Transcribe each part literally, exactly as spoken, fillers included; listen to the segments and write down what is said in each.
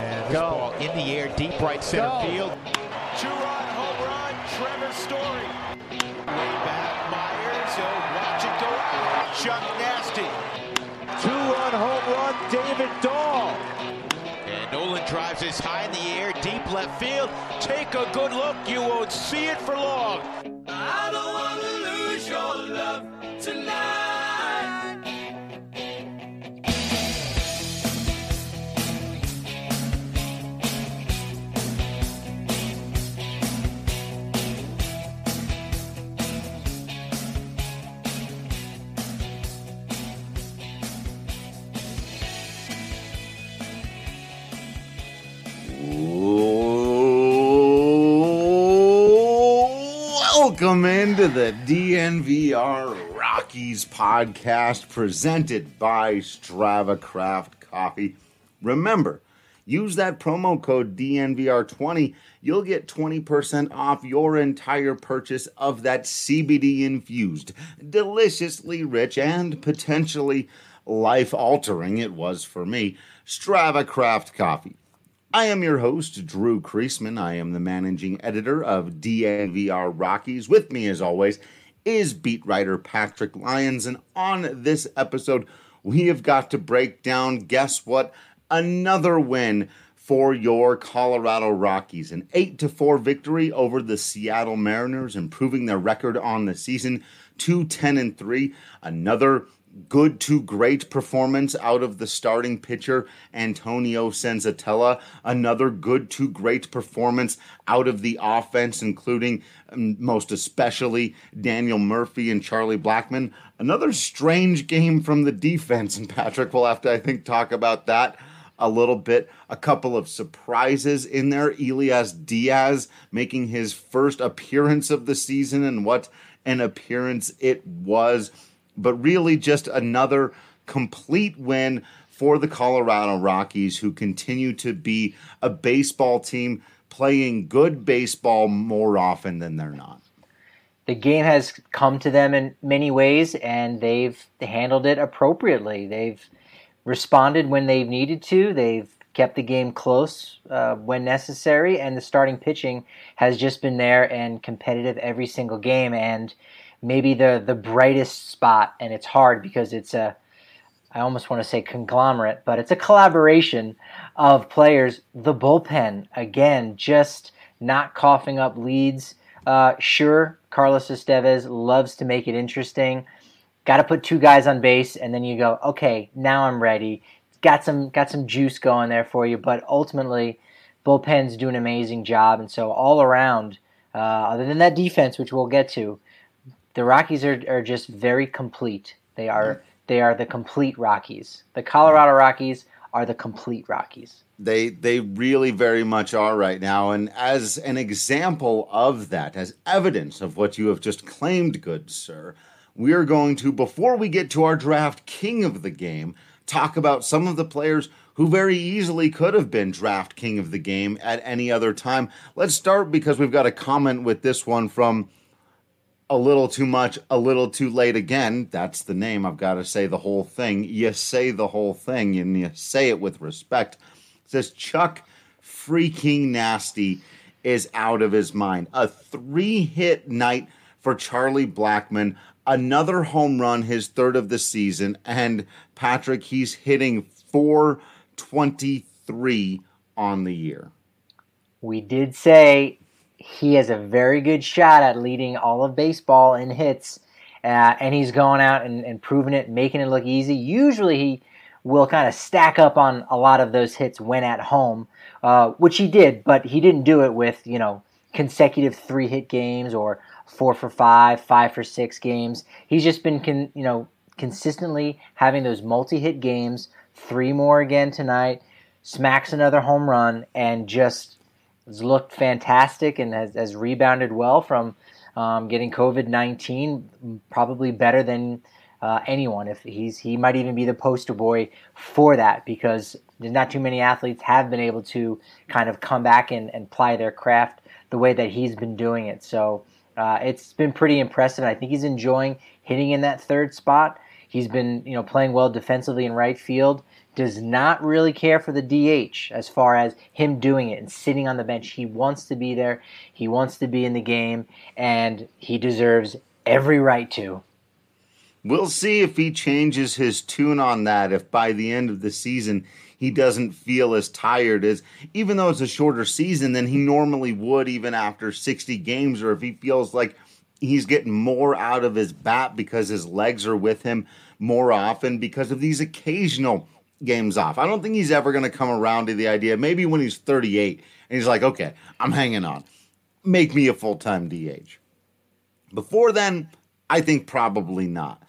And this Go. ball in the air, deep right center Go. field. Two-run home run, Trevor Story. Way back, Myers. He'll watch it go out. Chuck Nasty. Two-run home run, David Dahl. And Nolan drives this high in the air, deep left field. Take a good look. You won't see it for long. I don't want to lose your love tonight. Welcome into the D N V R Rockies podcast presented by Strava Craft Coffee. Remember, use that promo code D N V R twenty. You'll get twenty percent off your entire purchase of that C B D-infused, deliciously rich, and potentially life-altering, it was for me, Strava Craft Coffee. I am your host, Drew Kreisman. I am the managing editor of D N V R Rockies. With me, as always, is beat writer Patrick Lyons. And on this episode, we have got to break down, guess what? Another win for your Colorado Rockies. An eight to four victory over the Seattle Mariners, improving their record on the season to ten and three. Another good to great performance out of the starting pitcher, Antonio Senzatella. Another good to great performance out of the offense, including um, most especially Daniel Murphy and Charlie Blackmon. Another strange game from the defense, and Patrick will have to, I think, talk about that a little bit. A couple of surprises in there. Elias Diaz making his first appearance of the season, and what an appearance it was. But really just another complete win for the Colorado Rockies, who continue to be a baseball team playing good baseball more often than they're not. The game has come to them in many ways, and they've handled it appropriately. They've responded when they've needed to. They've kept the game close uh, when necessary, and the starting pitching has just been there and competitive every single game. And maybe the the brightest spot, and it's hard because it's a, I almost want to say conglomerate, but it's a collaboration of players. The bullpen, again, just not coughing up leads. Uh, sure, Carlos Estevez loves to make it interesting. Got to put two guys on base, and then you go, okay, now I'm ready. Got some got some juice going there for you, but ultimately, bullpens do an amazing job, and so all around, uh, other than that defense, which we'll get to, the Rockies are, are just very complete. They are they are the complete Rockies. The Colorado Rockies are the complete Rockies. They they really very much are right now. And as an example of that, as evidence of what you have just claimed, good sir, we are going to, before we get to our draft king of the game, talk about some of the players who very easily could have been draft king of the game at any other time. Let's start because we've got a comment with this one from A Little Too Much, A Little Too Late Again. That's the name. I've got to say the whole thing. You say the whole thing, and you say it with respect. It says, Chuck freaking Nasty is out of his mind. A three-hit night for Charlie Blackmon. Another home run, his third of the season. And, Patrick, he's hitting four twenty-three on the year. We did say he has a very good shot at leading all of baseball in hits, uh, and he's going out and, and proving it, making it look easy. Usually he will kind of stack up on a lot of those hits when at home, uh, which he did, but he didn't do it with, you know, consecutive three-hit games or four for five, five for six games. He's just been, con- you know, consistently having those multi-hit games, three more again tonight, smacks another home run, and just has looked fantastic and has, has rebounded well from um, getting covid nineteen, probably better than uh, anyone. If he's he might even be the poster boy for that, because there's not too many athletes have been able to kind of come back and, and ply their craft the way that he's been doing it. So uh, it's been pretty impressive. I think he's enjoying hitting in that third spot. He's been, you know, playing well defensively in right field, does not really care for the D H as far as him doing it and sitting on the bench. He wants to be there. He wants to be in the game, and he deserves every right to. We'll see if he changes his tune on that, if by the end of the season he doesn't feel as tired as, even though it's a shorter season than he normally would even after sixty games, or if he feels like he's getting more out of his bat because his legs are with him more often because of these occasional games off. I don't think he's ever going to come around to the idea, maybe when he's thirty-eight, and he's like, okay, I'm hanging on. Make me a full-time D H. Before then, I think probably not.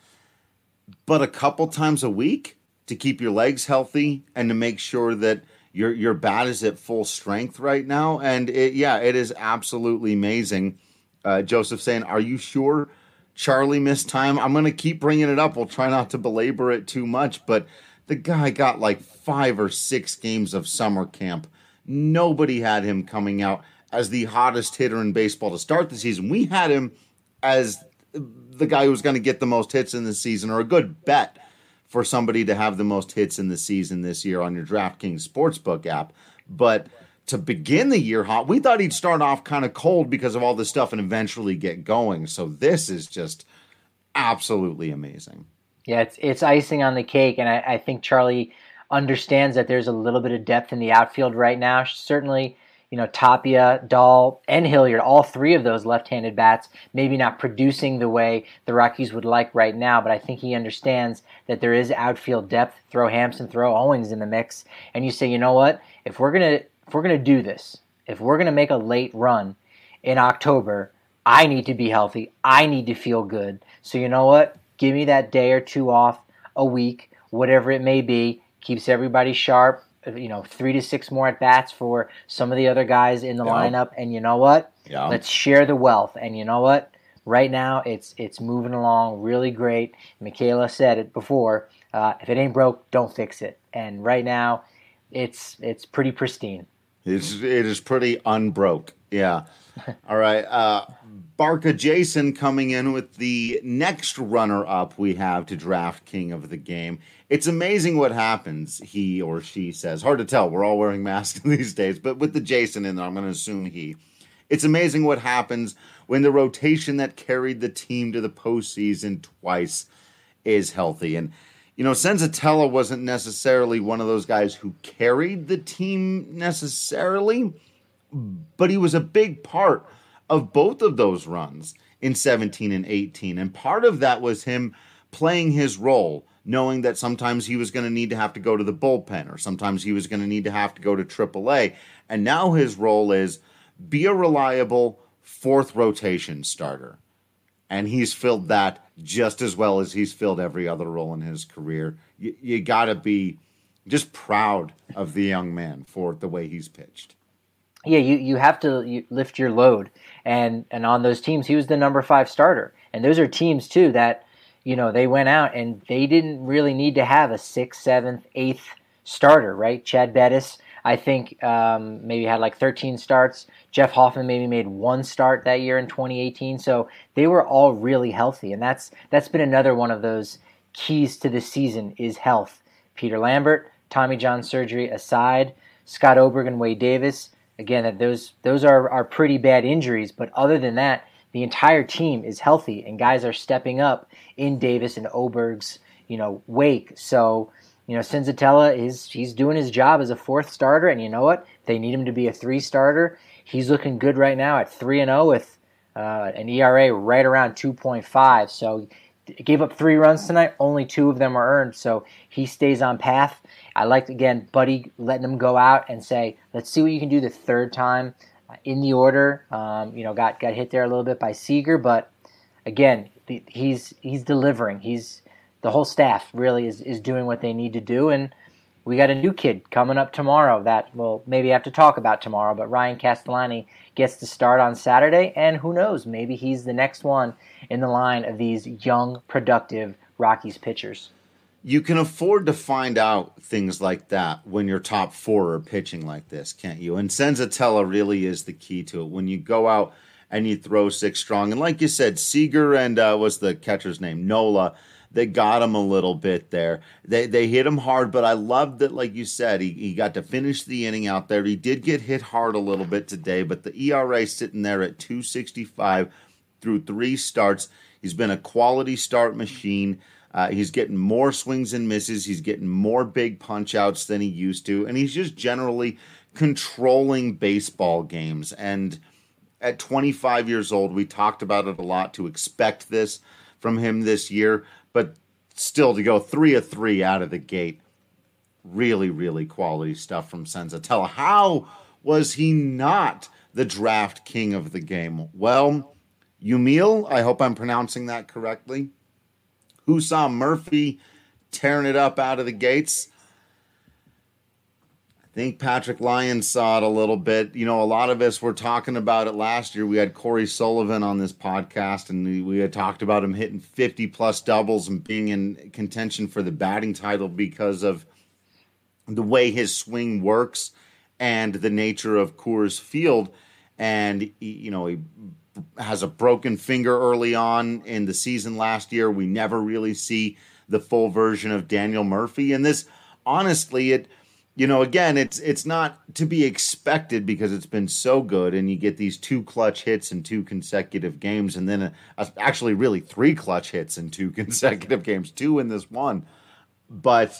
But a couple times a week to keep your legs healthy and to make sure that your your bat is at full strength right now. And it, yeah, it is absolutely amazing. Uh, Joseph saying, are you sure Charlie missed time? I'm going to keep bringing it up. We'll try not to belabor it too much, but the guy got like five or six games of summer camp. Nobody had him coming out as the hottest hitter in baseball to start the season. We had him as the guy who was going to get the most hits in the season, or a good bet for somebody to have the most hits in the season this year on your DraftKings Sportsbook app. But to begin the year hot, we thought he'd start off kind of cold because of all this stuff and eventually get going. So this is just absolutely amazing. Yeah, it's it's icing on the cake, and I, I think Charlie understands that there's a little bit of depth in the outfield right now. Certainly, you know, Tapia, Dahl, and Hilliard, all three of those left-handed bats, maybe not producing the way the Rockies would like right now, but I think he understands that there is outfield depth. Throw Hampson, throw Owings in the mix, and you say, you know what, if we're gonna if we're gonna do this, if we're gonna make a late run in October, I need to be healthy. I need to feel good. So you know what? Give me that day or two off a week, whatever it may be. Keeps everybody sharp. You know, three to six more at bats for some of the other guys in the yeah. lineup. And you know what? Yeah. Let's share the wealth. And you know what? Right now, it's it's moving along really great. Michaela said it before. Uh, if it ain't broke, don't fix it. And right now, it's it's pretty pristine. It's it is pretty unbroke. Yeah. All right. Uh, Barca Jason coming in with the next runner-up we have to draft king of the game. It's amazing what happens, he or she says. Hard to tell. We're all wearing masks these days. But with the Jason in there, I'm going to assume he. It's amazing what happens when the rotation that carried the team to the postseason twice is healthy. And, you know, Senzatella wasn't necessarily one of those guys who carried the team necessarily, but he was a big part of both of those runs in seventeen and eighteen. And part of that was him playing his role, knowing that sometimes he was going to need to have to go to the bullpen, or sometimes he was going to need to have to go to triple A. And now his role is be a reliable fourth rotation starter. And he's filled that just as well as he's filled every other role in his career. You, you got to be just proud of the young man for the way he's pitched. Yeah, you, you have to you lift your load. And and on those teams, he was the number five starter. And those are teams, too, that, you know, they went out and they didn't really need to have a sixth, seventh, eighth starter, right? Chad Bettis, I think, um, maybe had like thirteen starts. Jeff Hoffman maybe made one start that year in twenty eighteen. So they were all really healthy. And that's that's been another one of those keys to the season is health. Peter Lambert, Tommy John surgery aside, Scott Oberg and Wade Davis, again, that those those are, are pretty bad injuries. But other than that, the entire team is healthy, and guys are stepping up in Davis and Oberg's, you know, wake. So, you know, Senzatella is he's doing his job as a fourth starter, and you know what? If they need him to be a three starter, he's looking good right now at three and zero with uh, an E R A right around two point five. So, gave up three runs tonight. Only two of them are earned, so he stays on path. I liked again Buddy letting him go out and say, let's see what you can do the third time in the order. Um, you know, got got hit there a little bit by Seager, but again, he's he's delivering. He's the whole staff really is, is doing what they need to do, and we got a new kid coming up tomorrow that we'll maybe have to talk about tomorrow. But Ryan Castellani gets to start on Saturday, and who knows, maybe he's the next one in the line of these young, productive Rockies pitchers. You can afford to find out things like that when your top four are pitching like this, can't you? And Senzatella really is the key to it. When you go out and you throw six strong, and like you said, Seager and uh, what's the catcher's name? Nola, that got him a little bit there. They they hit him hard, but I loved that, like you said, he, he got to finish the inning out there. He did get hit hard a little bit today, but the E R A sitting there at two sixty-five through three starts. He's been a quality start machine. Uh, he's getting more swings and misses. He's getting more big punch outs than he used to, and he's just generally controlling baseball games. And at twenty-five years old, we talked about it a lot to expect this from him this year, but still to go three of three out of the gate, really, really quality stuff from Senzatela. How was he not the draft king of the game? Well, Yumil, I hope I'm pronouncing that correctly, who saw Murphy tearing it up out of the gates. I think Patrick Lyons saw it a little bit. You know, a lot of us were talking about it last year. We had Corey Sullivan on this podcast, and we, we had talked about him hitting fifty-plus doubles and being in contention for the batting title because of the way his swing works and the nature of Coors Field. And, he, you know, he has a broken finger early on in the season last year. We never really see the full version of Daniel Murphy. And this, honestly, it... You know, again, it's it's not to be expected because it's been so good, and you get these two clutch hits in two consecutive games, and then a, a, actually really three clutch hits in two consecutive games, two in this one. But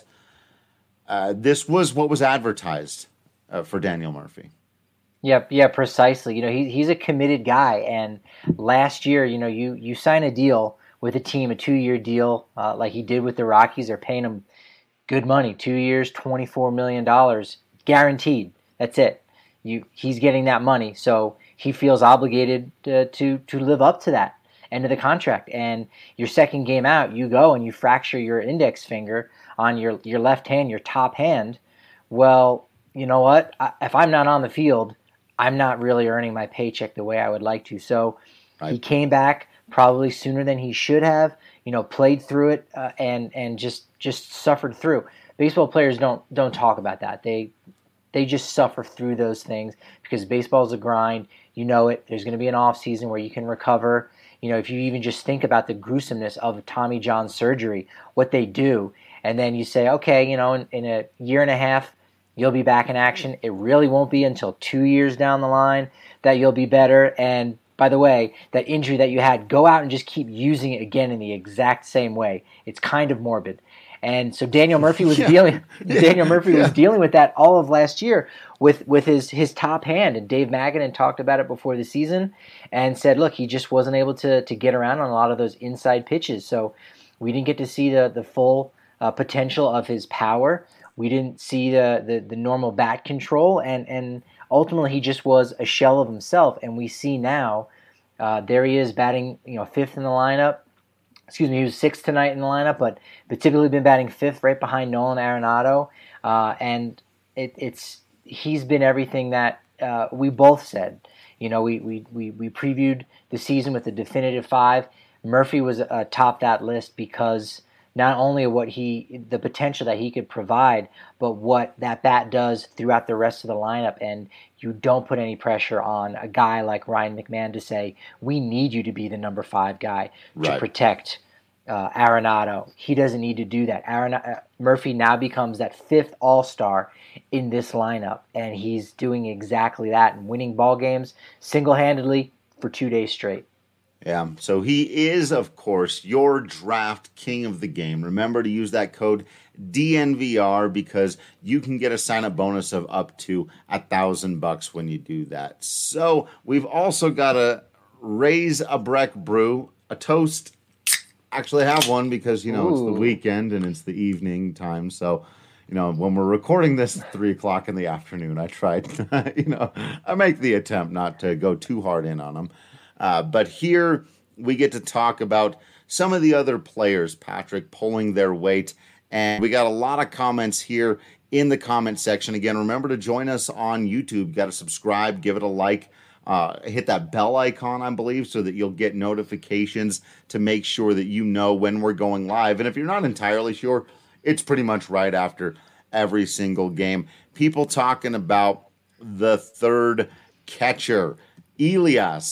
uh, this was what was advertised uh, for Daniel Murphy. Yep, yeah, precisely. You know, he, he's a committed guy, and last year, you know, you you sign a deal with a team, a two-year deal, uh, like he did with the Rockies. They're paying him good money, two years, twenty-four million dollars, guaranteed. That's it. You, he's getting that money, so he feels obligated to, to to live up to that end of the contract. And your second game out, you go and you fracture your index finger on your, your left hand, your top hand. Well, you know what? I, if I'm not on the field, I'm not really earning my paycheck the way I would like to. So right. He came back probably sooner than he should have. You know, played through it uh, and and just just suffered through. Baseball players don't don't talk about that. They they just suffer through those things because baseball is a grind. You know it. There's going to be an off season where you can recover. You know, if you even just think about the gruesomeness of Tommy John surgery, what they do, and then you say, okay, you know, in, in a year and a half, you'll be back in action. It really won't be until two years down the line that you'll be better. And by the way, that injury that you had, go out and just keep using it again in the exact same way. It's kind of morbid. And so Daniel Murphy was yeah. dealing Daniel Murphy yeah. was dealing with that all of last year with, with his, his top hand. And Dave Magadan talked about it before the season and said, look, he just wasn't able to to get around on a lot of those inside pitches. So we didn't get to see the, the full uh, potential of his power. We didn't see the, the, the normal bat control, and, and ultimately he just was a shell of himself. And we see now, uh, there he is batting, you know, fifth in the lineup. Excuse me, he was sixth tonight in the lineup, but but typically been batting fifth, right behind Nolan Arenado. Uh, and it, it's he's been everything that uh, we both said. You know, we, we we we previewed the season with the definitive five. Murphy was uh, top that list because not only what he, the potential that he could provide, but what that bat does throughout the rest of the lineup. And you don't put any pressure on a guy like Ryan McMahon to say, we need you to be the number five guy to right. protect uh, Arenado. He doesn't need to do that. Aaron, uh, Murphy now becomes that fifth all-star in this lineup, and he's doing exactly that and winning ball games single-handedly for two days straight. Yeah, so he is, of course, your draft king of the game. Remember to use that code D N V R because you can get a sign-up bonus of up to a thousand bucks when you do that. So we've also got a Raise a Breck brew, a toast. Actually, have one because you know Ooh. It's the weekend and it's the evening time. So, you know, when we're recording this at three o'clock in the afternoon, I tried, you know, I make the attempt not to go too hard in on them. Uh, but here we get to talk about some of the other players, Patrick, pulling their weight. And we got a lot of comments here in the comment section. Again, remember to join us on YouTube. You got to subscribe, give it a like, uh, hit that bell icon, I believe, so that you'll get notifications to make sure that you know when we're going live. And if you're not entirely sure, it's pretty much right after every single game. People talking about the third catcher, Elias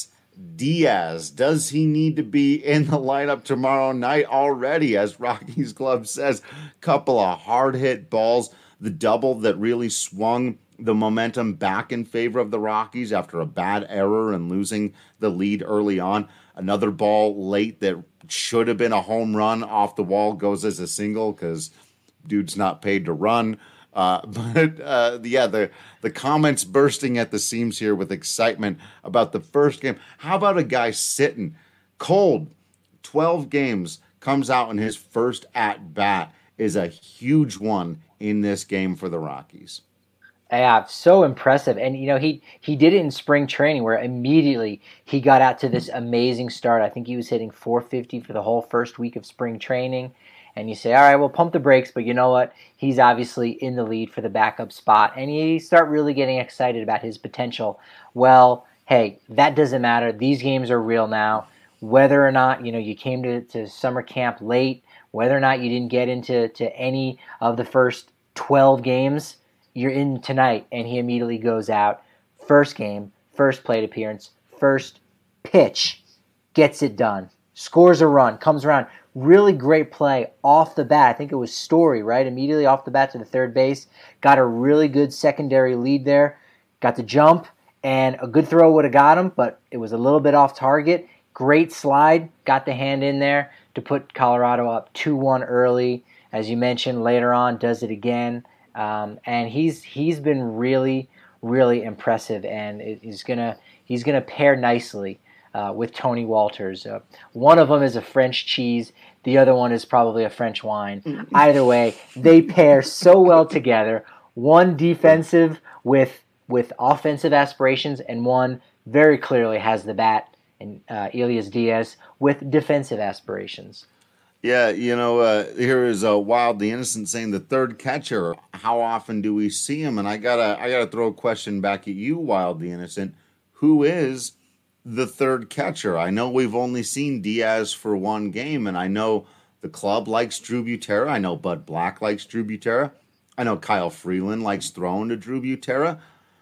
Diaz, does he need to be in the lineup tomorrow night already? As Rockies Club says, couple of hard hit balls, the double that really swung the momentum back in favor of the Rockies after a bad error and losing the lead early on. Another ball late that should have been a home run off the wall goes as a single because dude's not paid to run. Uh, but uh, yeah, the the comments bursting at the seams here with excitement about the first game. How about a guy sitting cold, twelve games, comes out in his first at bat is a huge one in this game for the Rockies. Yeah, so impressive. And, you know, he, he did it in spring training where immediately he got out to this amazing start. I think he was hitting four fifty for the whole first week of spring training. And you say, all right, well, pump the brakes, but you know what? He's obviously in the lead for the backup spot. And you start really getting excited about his potential. Well, hey, that doesn't matter. These games are real now. Whether or not, you know, you came to, to summer camp late, whether or not you didn't get into to any of the first twelve games, you're in tonight. And he immediately goes out. First game, first plate appearance, first pitch, gets it done, scores a run, comes around. Really great play off the bat. I think it was Story, right? Immediately off the bat to the third base. Got a really good secondary lead there. Got the jump, and a good throw would have got him, but it was a little bit off target. Great slide. Got the hand in there to put Colorado up two one early. As you mentioned, later on, does it again. Um, and he's he's been really, really impressive, and he's gonna he's gonna pair nicely Uh, with Tony Walters. Uh, one of them is a French cheese. The other one is probably a French wine. Either way, they pair so well together. One defensive with with offensive aspirations, and one very clearly has the bat, and uh, Elias Diaz with defensive aspirations. Yeah, you know, uh, here is uh, Wild the Innocent saying the third catcher. How often do we see him? And I gotta I gotta throw a question back at you, Wild the Innocent. Who is the third catcher? I know we've only seen Diaz for one game, and I know the club likes Drew Butera. I know Bud Black likes Drew Butera. I know Kyle Freeland likes throwing to Drew Butera.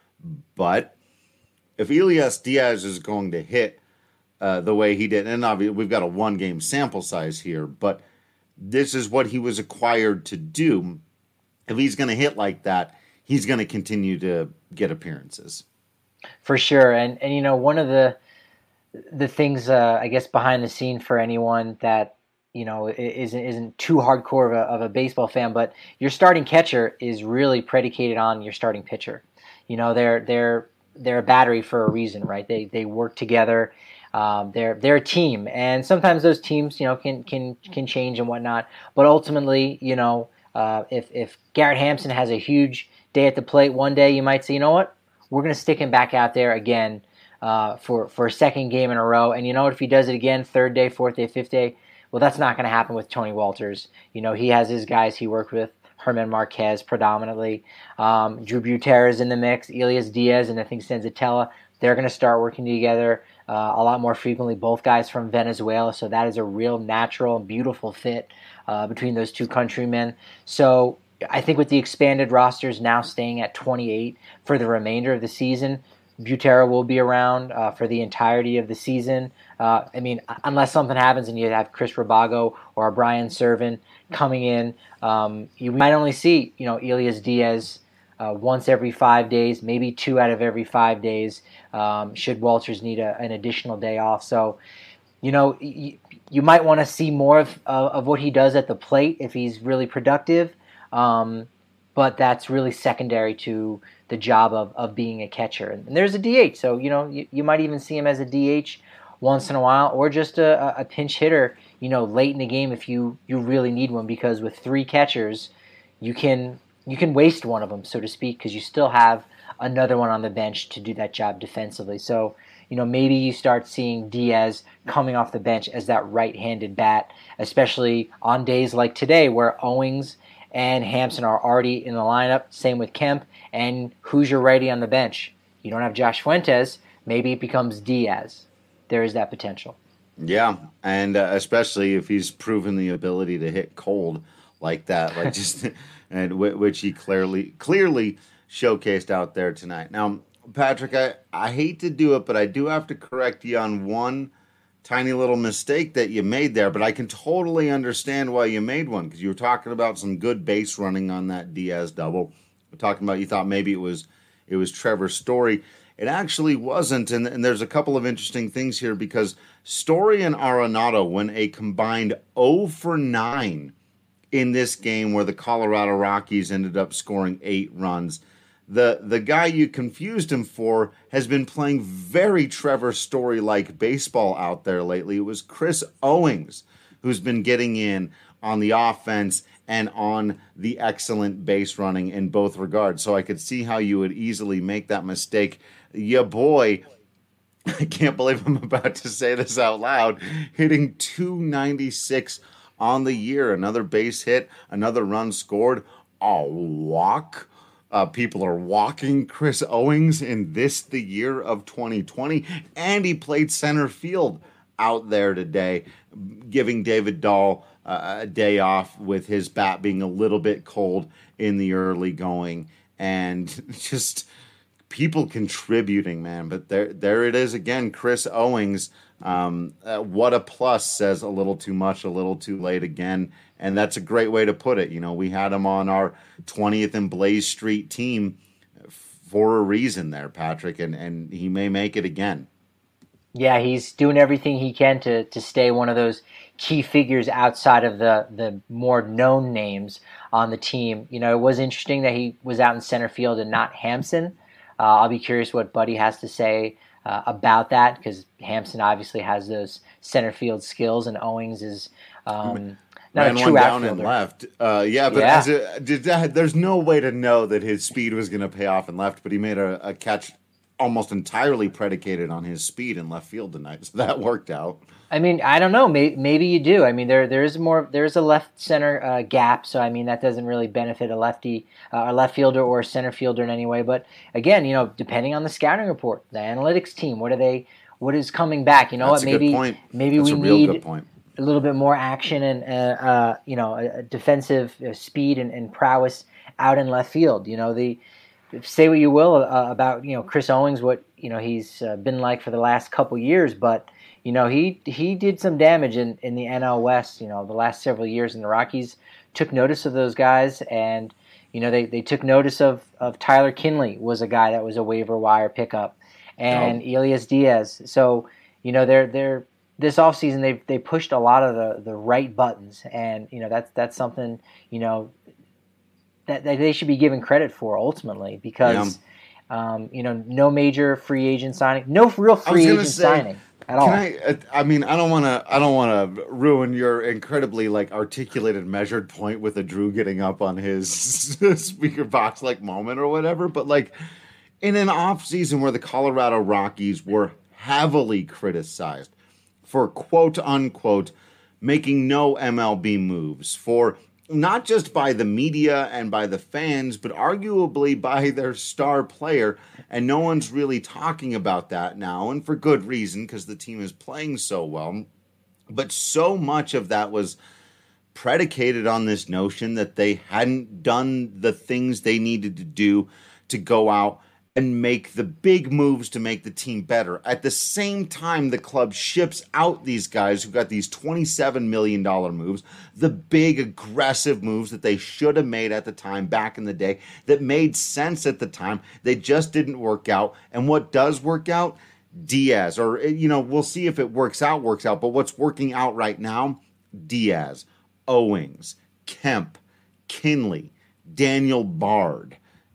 But if Elias Diaz is going to hit uh, the way he did, and obviously we've got a one-game sample size here, but this is what he was acquired to do. If he's going to hit like that, he's going to continue to get appearances. For sure. And, and you know, one of the the things, uh, I guess, behind the scene for anyone that, you know, isn't isn't too hardcore of a, of a baseball fan, but your starting catcher is really predicated on your starting pitcher. You know, they're they're they're a battery for a reason, right? They they work together. Um, they're they're a team, and sometimes those teams, you know, can can can change and whatnot. But ultimately, you know, uh, if if Garrett Hampson has a huge day at the plate one day, you might say, you know what, we're going to stick him back out there again. Uh, for, for a second game in a row. And you know what, if he does it again, third day, fourth day, fifth day, well, that's not going to happen with Tony Walters. You know, he has his guys he worked with, Herman Marquez predominantly. Um, Drew Butera is in the mix, Elias Diaz, and I think Senzatella. They're going to start working together uh, a lot more frequently, both guys from Venezuela, so that is a real natural and beautiful fit uh, between those two countrymen. So I think with the expanded rosters now staying at twenty-eight for the remainder of the season, Butera will be around uh, for the entirety of the season. Uh, I mean, unless something happens and you have Chris Rabago or Brian Serven coming in, um, you might only see, you know, Elias Diaz uh, once every five days, maybe two out of every five days, um, should Walters need a, an additional day off. So, you know, you, you might want to see more of, uh, of what he does at the plate if he's really productive, um, but that's really secondary to the job of, of being a catcher. And there's a D H, so, you know, you, you might even see him as a D H once in a while, or just a, a pinch hitter, you know, late in the game if you, you really need one, because with three catchers, you can you can waste one of them, so to speak, because you still have another one on the bench to do that job defensively. So, you know, maybe you start seeing Diaz coming off the bench as that right-handed bat, especially on days like today where Owings and Hampson are already in the lineup, same with Kemp, and who's your righty on the bench? You don't have Josh Fuentes, maybe it becomes Diaz. There is that potential. Yeah, and uh, especially if he's proven the ability to hit cold like that, like just and w- which he clearly clearly showcased out there tonight. Now, Patrick, I, I hate to do it, but I do have to correct you on one tiny little mistake that you made there, but I can totally understand why you made one, because you were talking about some good base running on that Diaz double. We're talking about you thought maybe it was it was Trevor Story. It actually wasn't, and, and there's a couple of interesting things here, because Story and Arenado went a combined oh for nine in this game where the Colorado Rockies ended up scoring eight runs. The the guy you confused him for has been playing very Trevor Story-like baseball out there lately. It was Chris Owings who's been getting in on the offense and on the excellent base running in both regards. So I could see how you would easily make that mistake. Ya boy, I can't believe I'm about to say this out loud, hitting two ninety-six on the year. Another base hit, another run scored, a walk. Uh, people are walking Chris Owings in this, the year of twenty twenty, and he played center field out there today, giving David Dahl uh, a day off with his bat being a little bit cold in the early going, and just people contributing, man. But there, there it is again, Chris Owings. Um, uh, what a plus says a little too much, a little too late again. And that's a great way to put it. You know, we had him on our twentieth and Blaze Street team for a reason there, Patrick, and, and he may make it again. Yeah, he's doing everything he can to to stay one of those key figures outside of the, the more known names on the team. You know, it was interesting that he was out in center field and not Hampson. Uh, I'll be curious what Buddy has to say uh, about that, because Hampson obviously has those center field skills, and Owings is um, not Ran a true one down outfielder. and left. Uh, yeah, but Yeah. As a, did that, there's no way to know that his speed was going to pay off and left, but he made a, a catch almost entirely predicated on his speed in left field tonight, so that worked out. I mean, I don't know. Maybe, maybe you do. I mean, there there is more. There's a left center uh, gap, so I mean that doesn't really benefit a lefty, uh, a left fielder or a center fielder in any way. But again, you know, depending on the scouting report, the analytics team, what are they? What is coming back? You know That's what? a good Maybe point. maybe That's we a real need good point. a little bit more action and uh, uh, you know, a, a defensive uh, speed and, and prowess out in left field. You know, the say what you will uh, about you know Chris Owings, what you know he's uh, been like for the last couple years, but you know he he did some damage in, in the N L West. You know, the last several years, and the Rockies took notice of those guys, and you know they, they took notice of, of Tyler Kinley was a guy that was a waiver wire pickup, and oh. Elias Diaz. So you know they're they're this offseason they they pushed a lot of the, the right buttons, and you know that's that's something you know that, that they should be given credit for ultimately, because yeah. um, you know no major free agent signing, no real free agent say, signing at all. Can I? I mean, I don't want to. I don't want to ruin your incredibly like articulated, measured point with a Drew getting up on his speaker box like moment or whatever. But like in an off season where the Colorado Rockies were heavily criticized for quote unquote making no M L B moves, for not just by the media and by the fans, but arguably by their star player. And no one's really talking about that now, and for good reason, because the team is playing so well. But so much of that was predicated on this notion that they hadn't done the things they needed to do to go out and make the big moves to make the team better. At the same time, the club ships out these guys who got these twenty-seven million dollars moves, the big aggressive moves that they should have made at the time back in the day, that made sense at the time. They just didn't work out. And what does work out? Diaz. Or, you know, we'll see if it works out, works out. But what's working out right now? Diaz, Owings, Kemp, Kinley, Daniel Bard.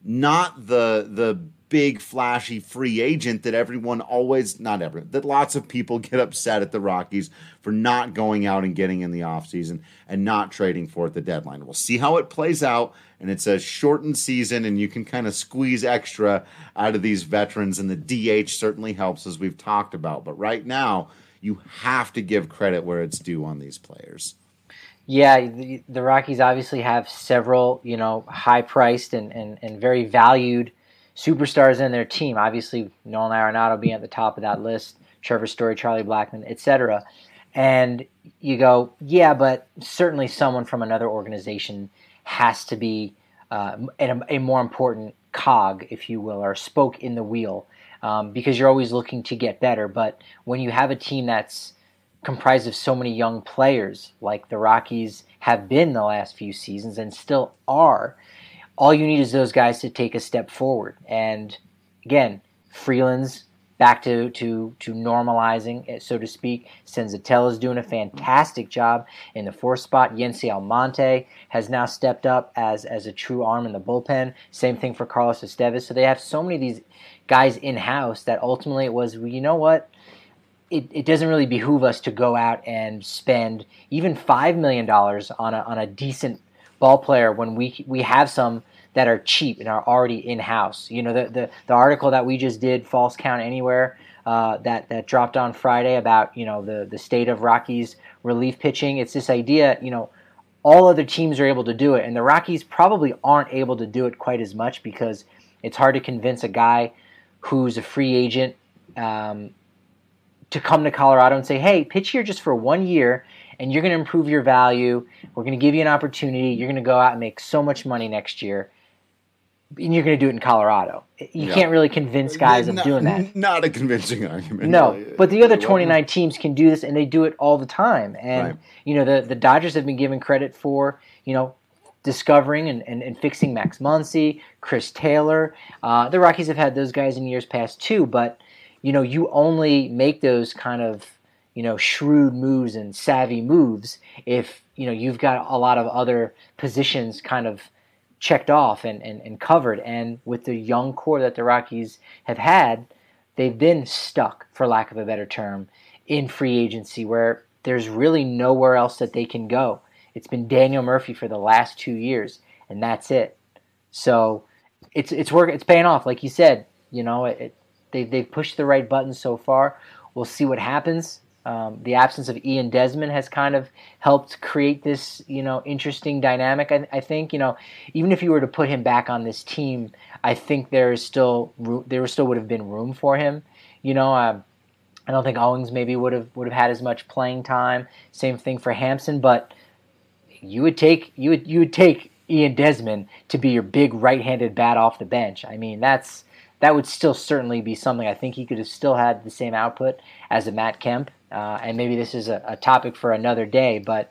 Not the the big flashy free agent that everyone always, not everyone, that lots of people get upset at the Rockies for not going out and getting in the offseason and not trading for at the deadline. We'll see how it plays out, and it's a shortened season, and you can kind of squeeze extra out of these veterans, and the D H certainly helps, as we've talked about. But right now, you have to give credit where it's due on these players. Yeah, the, the Rockies obviously have several, you know, high-priced and, and, and very valued superstars in their team. Obviously, Nolan Arenado being at the top of that list, Trevor Story, Charlie Blackmon, et cetera. And you go, yeah, but certainly someone from another organization has to be uh, a, a more important cog, if you will, or spoke in the wheel, um, because you're always looking to get better. But when you have a team that's comprised of so many young players, like the Rockies have been the last few seasons and still are, all you need is those guys to take a step forward. And again, Freeland's back to, to, to normalizing, so to speak. Senzatella is doing a fantastic job in the fourth spot. Yency Almonte has now stepped up as, as a true arm in the bullpen. Same thing for Carlos Estevez. So they have so many of these guys in-house that ultimately it was, well, you know what? It, it doesn't really behoove us to go out and spend even five million dollars on a, on a decent ball player when we we have some that are cheap and are already in-house. You know, the, the, the article that we just did, False Count Anywhere, uh, that, that dropped on Friday about, you know, the, the state of Rockies relief pitching. It's this idea, you know, all other teams are able to do it, and the Rockies probably aren't able to do it quite as much because it's hard to convince a guy who's a free agent um, to come to Colorado and say, hey, pitch here just for one year, and you're going to improve your value. We're going to give you an opportunity. You're going to go out and make so much money next year. And you're going to do it in Colorado. You yeah. can't really convince guys not, of doing that. Not a convincing argument. No, but the other twenty-nine teams can do this, and they do it all the time. And, right. you know, the, the Dodgers have been given credit for, you know, discovering and, and, and fixing Max Muncy, Chris Taylor. Uh, the Rockies have had those guys in years past too, but, you know, you only make those kind of, you know, shrewd moves and savvy moves if, you know, you've got a lot of other positions kind of checked off and, and, and covered. And with the young core that the Rockies have had, they've been stuck, for lack of a better term, in free agency where there's really nowhere else that they can go. It's been Daniel Murphy for the last two years, and that's it. So it's it's work. It's paying off, like you said. You know, it, it, they they've pushed the right buttons so far. We'll see what happens. Um, the absence of Ian Desmond has kind of helped create this, you know, interesting dynamic. I, I think, you know, even if you were to put him back on this team, I think there is still there still would have been room for him. You know, uh, I don't think Owings maybe would have would have had as much playing time. Same thing for Hampson, but you would take you would you would take Ian Desmond to be your big right-handed bat off the bench. I mean, that's that would still certainly be something. I think he could have still had the same output as a Matt Kemp. Uh, and maybe this is a, a topic for another day, but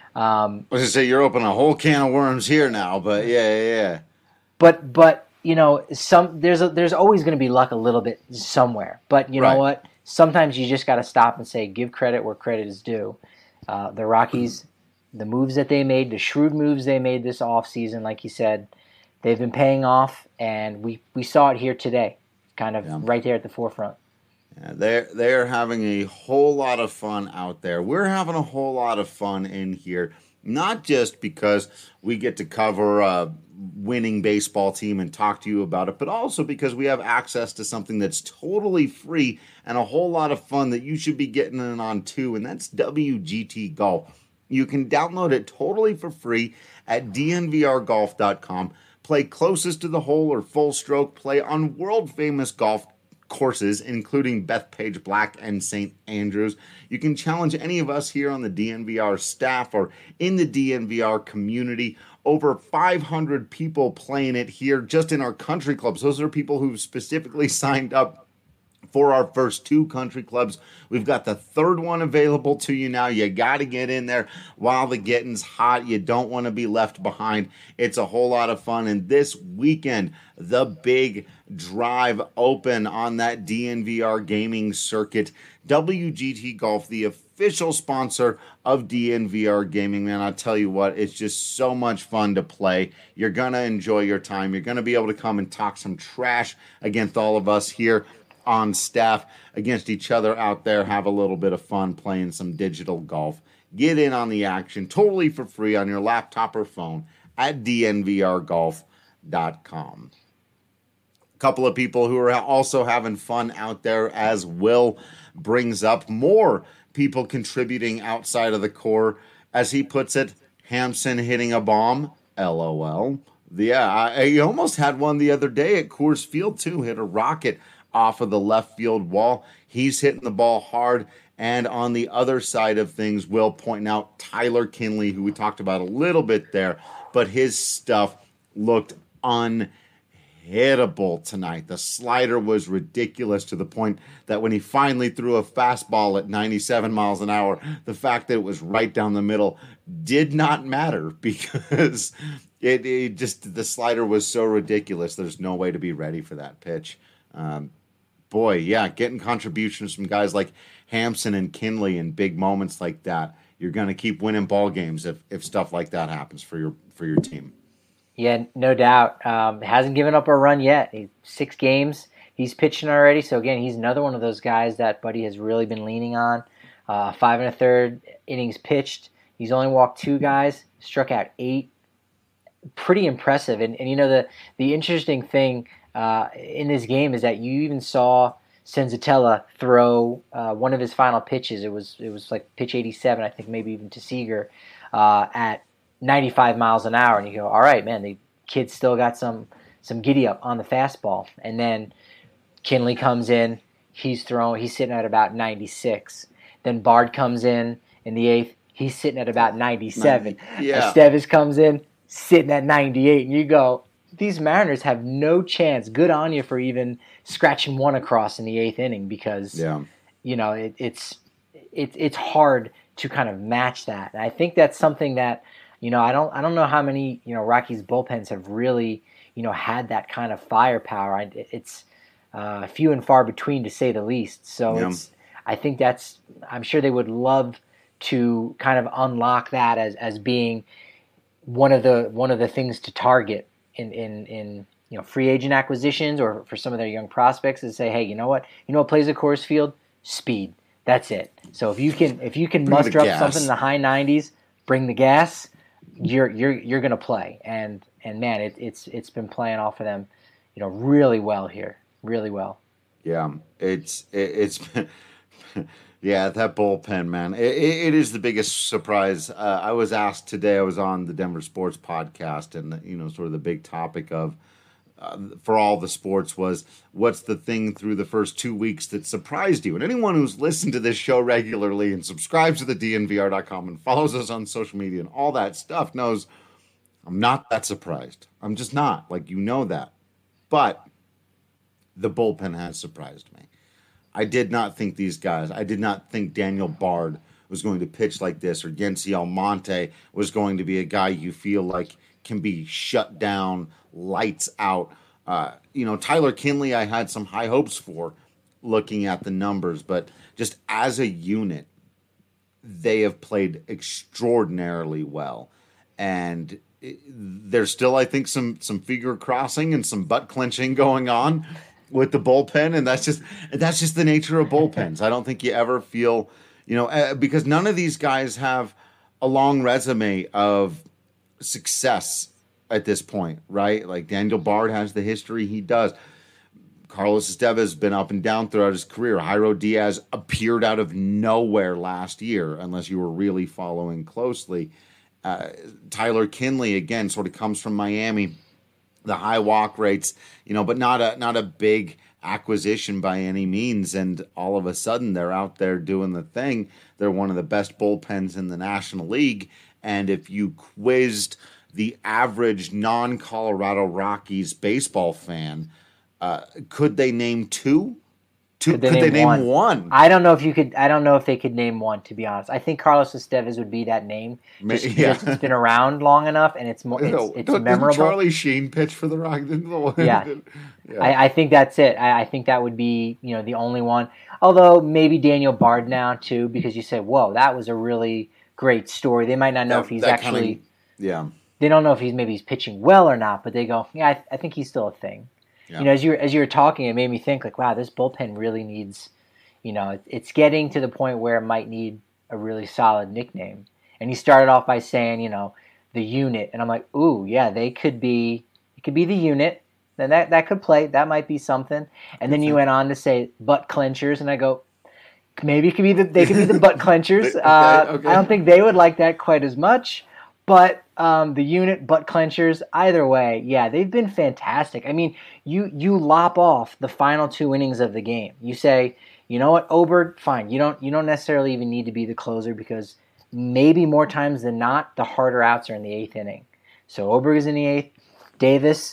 um, I was gonna say you're opening a whole can of worms here now, but yeah, yeah, yeah. But but you know, some there's a, there's always going to be luck a little bit somewhere. But you right. know what? Sometimes you just got to stop and say, give credit where credit is due. Uh, the Rockies, the moves that they made, the shrewd moves they made this offseason, like you said, they've been paying off, and we, we saw it here today, kind of yeah. right there at the forefront. Yeah, they're, they're having a whole lot of fun out there. We're having a whole lot of fun in here, not just because we get to cover a winning baseball team and talk to you about it, but also because we have access to something that's totally free and a whole lot of fun that you should be getting in on too, and that's W G T Golf. You can download it totally for free at D N V R golf dot com. Play closest to the hole or full stroke play on world-famous golf courses, including Bethpage Black and Saint Andrews. You can challenge any of us here on the D N V R staff or in the D N V R community. Over five hundred people playing it here just in our country clubs. Those are people who specifically signed up for our first two country clubs. We've got the third one available to you now. You got to get in there while the getting's hot. You don't want to be left behind. It's a whole lot of fun. And this weekend, the big drive open on that D N V R gaming circuit. W G T Golf, the official sponsor of D N V R Gaming, man, I'll tell you what, it's just so much fun to play. You're going to enjoy your time. You're going to be able to come and talk some trash against all of us here on staff, against each other out there, have a little bit of fun playing some digital golf. Get in on the action totally for free on your laptop or phone at D N V R golf dot com. A couple of people who are also having fun out there, as Will brings up, more people contributing outside of the core. As he puts it, Hampson hitting a bomb, LOL. Yeah, I, I almost had one the other day at Coors Field too, hit a rocket off of the left field wall. He's hitting the ball hard. And on the other side of things, Will pointing out Tyler Kinley, who we talked about a little bit there, but his stuff looked unhinged. unhittable tonight. The slider was ridiculous to the point that when he finally threw a fastball at ninety-seven miles an hour, the fact that it was right down the middle did not matter because it, it just, the slider was so ridiculous. There's no way to be ready for that pitch. Um, boy, yeah, getting contributions from guys like Hampson and Kinley in big moments like that. You're going to keep winning ball games if, if stuff like that happens for your for your team. Yeah, no doubt. Um, hasn't given up a run yet. He, six games he's pitching already. So again, he's another one of those guys that Buddy has really been leaning on. Uh, five and a third innings pitched. He's only walked two guys, struck out eight. Pretty impressive. And and you know the the interesting thing uh, in this game is that you even saw Senzatella throw uh, one of his final pitches. It was it was like pitch eighty-seven, I think, maybe even to Seager uh, at ninety-five miles an hour, and you go, all right, man, the kid's still got some some giddy up on the fastball. And then Kinley comes in, he's throwing, he's sitting at about ninety-six. Then Bard comes in in the eighth, he's sitting at about ninety-seven. Yeah. Estevez comes in, sitting at ninety-eight, and you go, these Mariners have no chance. Good on you for even scratching one across in the eighth inning because, Yeah. you know, it, it's it, it's hard to kind of match that. And I think that's something that, you know, I don't I don't know how many, you know, Rockies bullpens have really, you know, had that kind of firepower. I, it's uh, few and far between, to say the least. So Yeah. it's I think that's I'm sure they would love to kind of unlock that as as being one of the one of the things to target in in in you know free agent acquisitions or for some of their young prospects, is say, hey, you know what, you know what plays at Coors Field? Speed. That's it. So if you can if you can Bring the muster up gas. something in the high nineties, bring the gas, you're you're you're gonna play. And and man, it, it's it's been playing off of them, you know, really well here, really well. Yeah, it's it, it's been, yeah, that bullpen, man. It, it, it is the biggest surprise. Uh, I was asked today. I was on the Denver Sports Podcast, and you know, sort of the big topic of uh, for all the sports was, what's the thing through the first two weeks that surprised you? And anyone who's listened to this show regularly and subscribes to the D N V R dot com and follows us on social media and all that stuff knows I'm not that surprised. I'm just not. Like, you know that. But the bullpen has surprised me. I did not think these guys, I did not think Daniel Bard was going to pitch like this, or Yency Almonte was going to be a guy you feel like can be shut down, lights out. Uh, you know, Tyler Kinley, I had some high hopes for looking at the numbers, but just as a unit, they have played extraordinarily well. And it, there's still, I think, some some figure crossing and some butt clenching going on with the bullpen, and that's just that's just the nature of bullpens. I don't think you ever feel, you know, uh, because none of these guys have a long resume of success at this point, right? Like Daniel Bard has the history he does. Carlos Estevez has been up and down throughout his career. Jairo Diaz appeared out of nowhere last year, unless you were really following closely. Uh, Tyler Kinley, again, sort of comes from Miami. The high walk rates, you know, but not a not a big acquisition by any means. And all of a sudden, they're out there doing the thing. They're one of the best bullpens in the National League. And if you quizzed the average non-Colorado Rockies baseball fan, uh, could they name two? Two? Could they, could name, they name one? one? I don't know if you could. I don't know if they could name one. To be honest, I think Carlos Estevez would be that name. Just Yeah. because it's been around long enough and it's more. It's, No, it's don't- memorable. Didn't Charlie Sheen pitch for the Rockies? Yeah. Yeah. I, I think that's it. I, I think that would be, you know, the only one. Although maybe Daniel Bard now too, because you say, "Whoa, that was a really great story." They might not know That- if he's that actually. kinda- yeah. They don't know if he's maybe he's pitching well or not, but they go, "Yeah, I, I think he's still a thing." Yeah. You know, as you as you were talking, it made me think like, "Wow, this bullpen really needs." You know, it, it's getting to the point where it might need a really solid nickname. And he started off by saying, you know, the unit, and I'm like, ooh, yeah, they could be. It could be the unit. Then that that could play. That might be something. And then you went on to say butt clenchers, and I go, maybe it could be the they could be the butt clenchers. Okay, uh, okay. I don't think they would like that quite as much. But um, the unit, butt clenchers, either way, yeah, they've been fantastic. I mean, you you lop off the final two innings of the game. You say, you know what, Oberg, fine. You don't you don't necessarily even need to be the closer because maybe more times than not, the harder outs are in the eighth inning. So Oberg is in the eighth. Davis,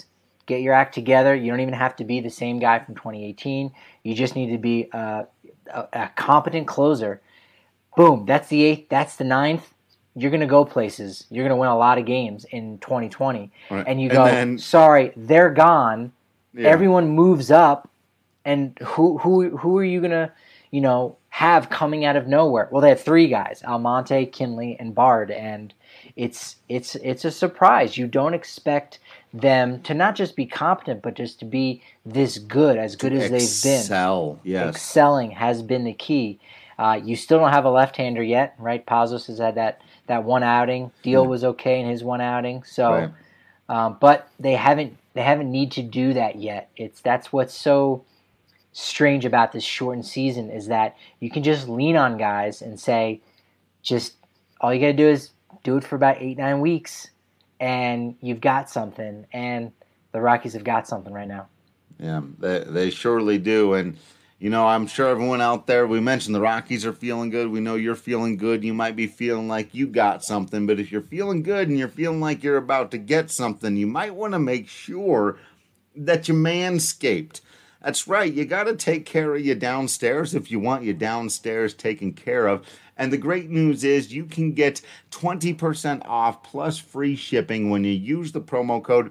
get your act together. You don't even have to be the same guy from twenty eighteen. You just need to be a, a, a competent closer. Boom, that's the eighth, that's the ninth. You're going to go places. You're going to win a lot of games in twenty twenty. Right. And you go, and then, sorry, they're gone. Yeah. Everyone moves up. And who who who are you going to, you know, have coming out of nowhere? Well, they have three guys, Almonte, Kinley, and Bard. And it's it's it's a surprise. You don't expect them to not just be competent, but just to be this good, as good as they've been. Excel, yes. Excelling has been the key. Uh, you still don't have a left-hander yet, right? Pazos has had that, that one outing. Deal yeah. was okay in his one outing. So, right. um, but they haven't they haven't need to do that yet. It's that's what's so strange about this shortened season is that you can just lean on guys and say, just all you got to do is do it for about eight nine weeks, and you've got something. And the Rockies have got something right now. Yeah, they they surely do, and. You know, I'm sure everyone out there, we mentioned the Rockies are feeling good. We know you're feeling good. You might be feeling like you got something. But if you're feeling good and you're feeling like you're about to get something, you might want to make sure that you manscaped. That's right. You got to take care of your downstairs if you want your downstairs taken care of. And the great news is you can get twenty percent off plus free shipping when you use the promo code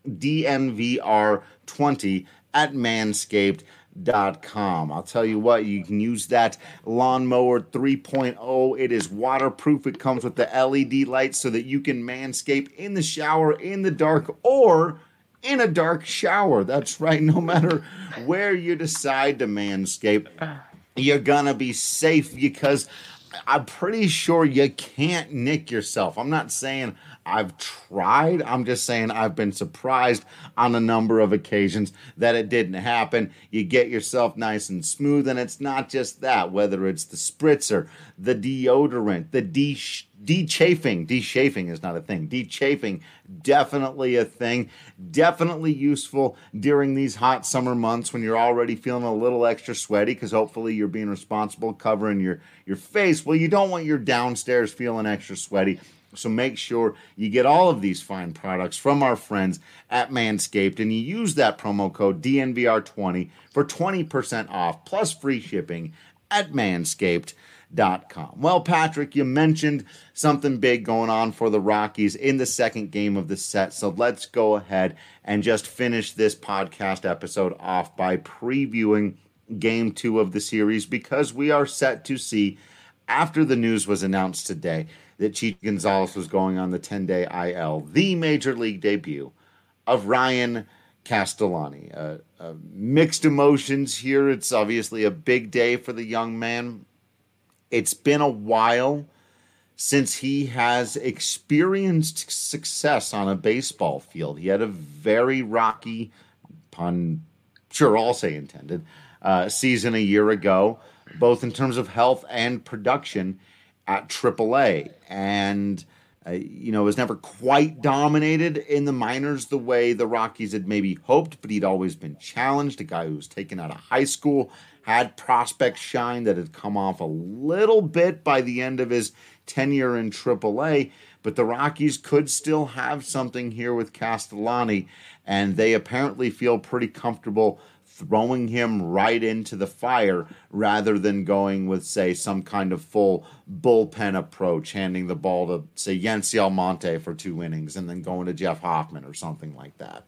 D N V R twenty at Manscaped. Dot com. I'll tell you what, you can use that lawnmower three point oh. It is waterproof. It comes with the L E D lights so that you can manscape in the shower, in the dark, or in a dark shower. That's right. No matter where you decide to manscape, you're gonna be safe because I'm pretty sure you can't nick yourself. I'm not saying I've tried. I'm just saying I've been surprised on a number of occasions that it didn't happen. You get yourself nice and smooth, and it's not just that. Whether it's the spritzer, the deodorant, the de- de-chafing. De-chafing is not a thing. De-chafing, definitely a thing. Definitely useful during these hot summer months when you're already feeling a little extra sweaty because hopefully you're being responsible covering your, your face. Well, you don't want your downstairs feeling extra sweaty. So make sure you get all of these fine products from our friends at Manscaped, and you use that promo code D N V R twenty for twenty percent off plus free shipping at manscaped dot com. Well, Patrick, you mentioned something big going on for the Rockies in the second game of the set, so let's go ahead and just finish this podcast episode off by previewing game two of the series because we are set to see, after the news was announced today, that Chichi Gonzalez was going on the ten-day I L, the major league debut of Ryan Castellani. Uh, uh, mixed emotions here. It's obviously a big day for the young man. It's been a while since he has experienced success on a baseball field. He had a very rocky, pun, sure, I'll say intended, uh, season a year ago, both in terms of health and production at triple A, and uh, you know, was never quite dominated in the minors the way the Rockies had maybe hoped, but he'd always been challenged. A guy who was taken out of high school, had prospect shine that had come off a little bit by the end of his tenure in triple A, but the Rockies could still have something here with Castellani, and they apparently feel pretty comfortable throwing him right into the fire rather than going with, say, some kind of full bullpen approach, handing the ball to, say, Yency Almonte for two innings and then going to Jeff Hoffman or something like that.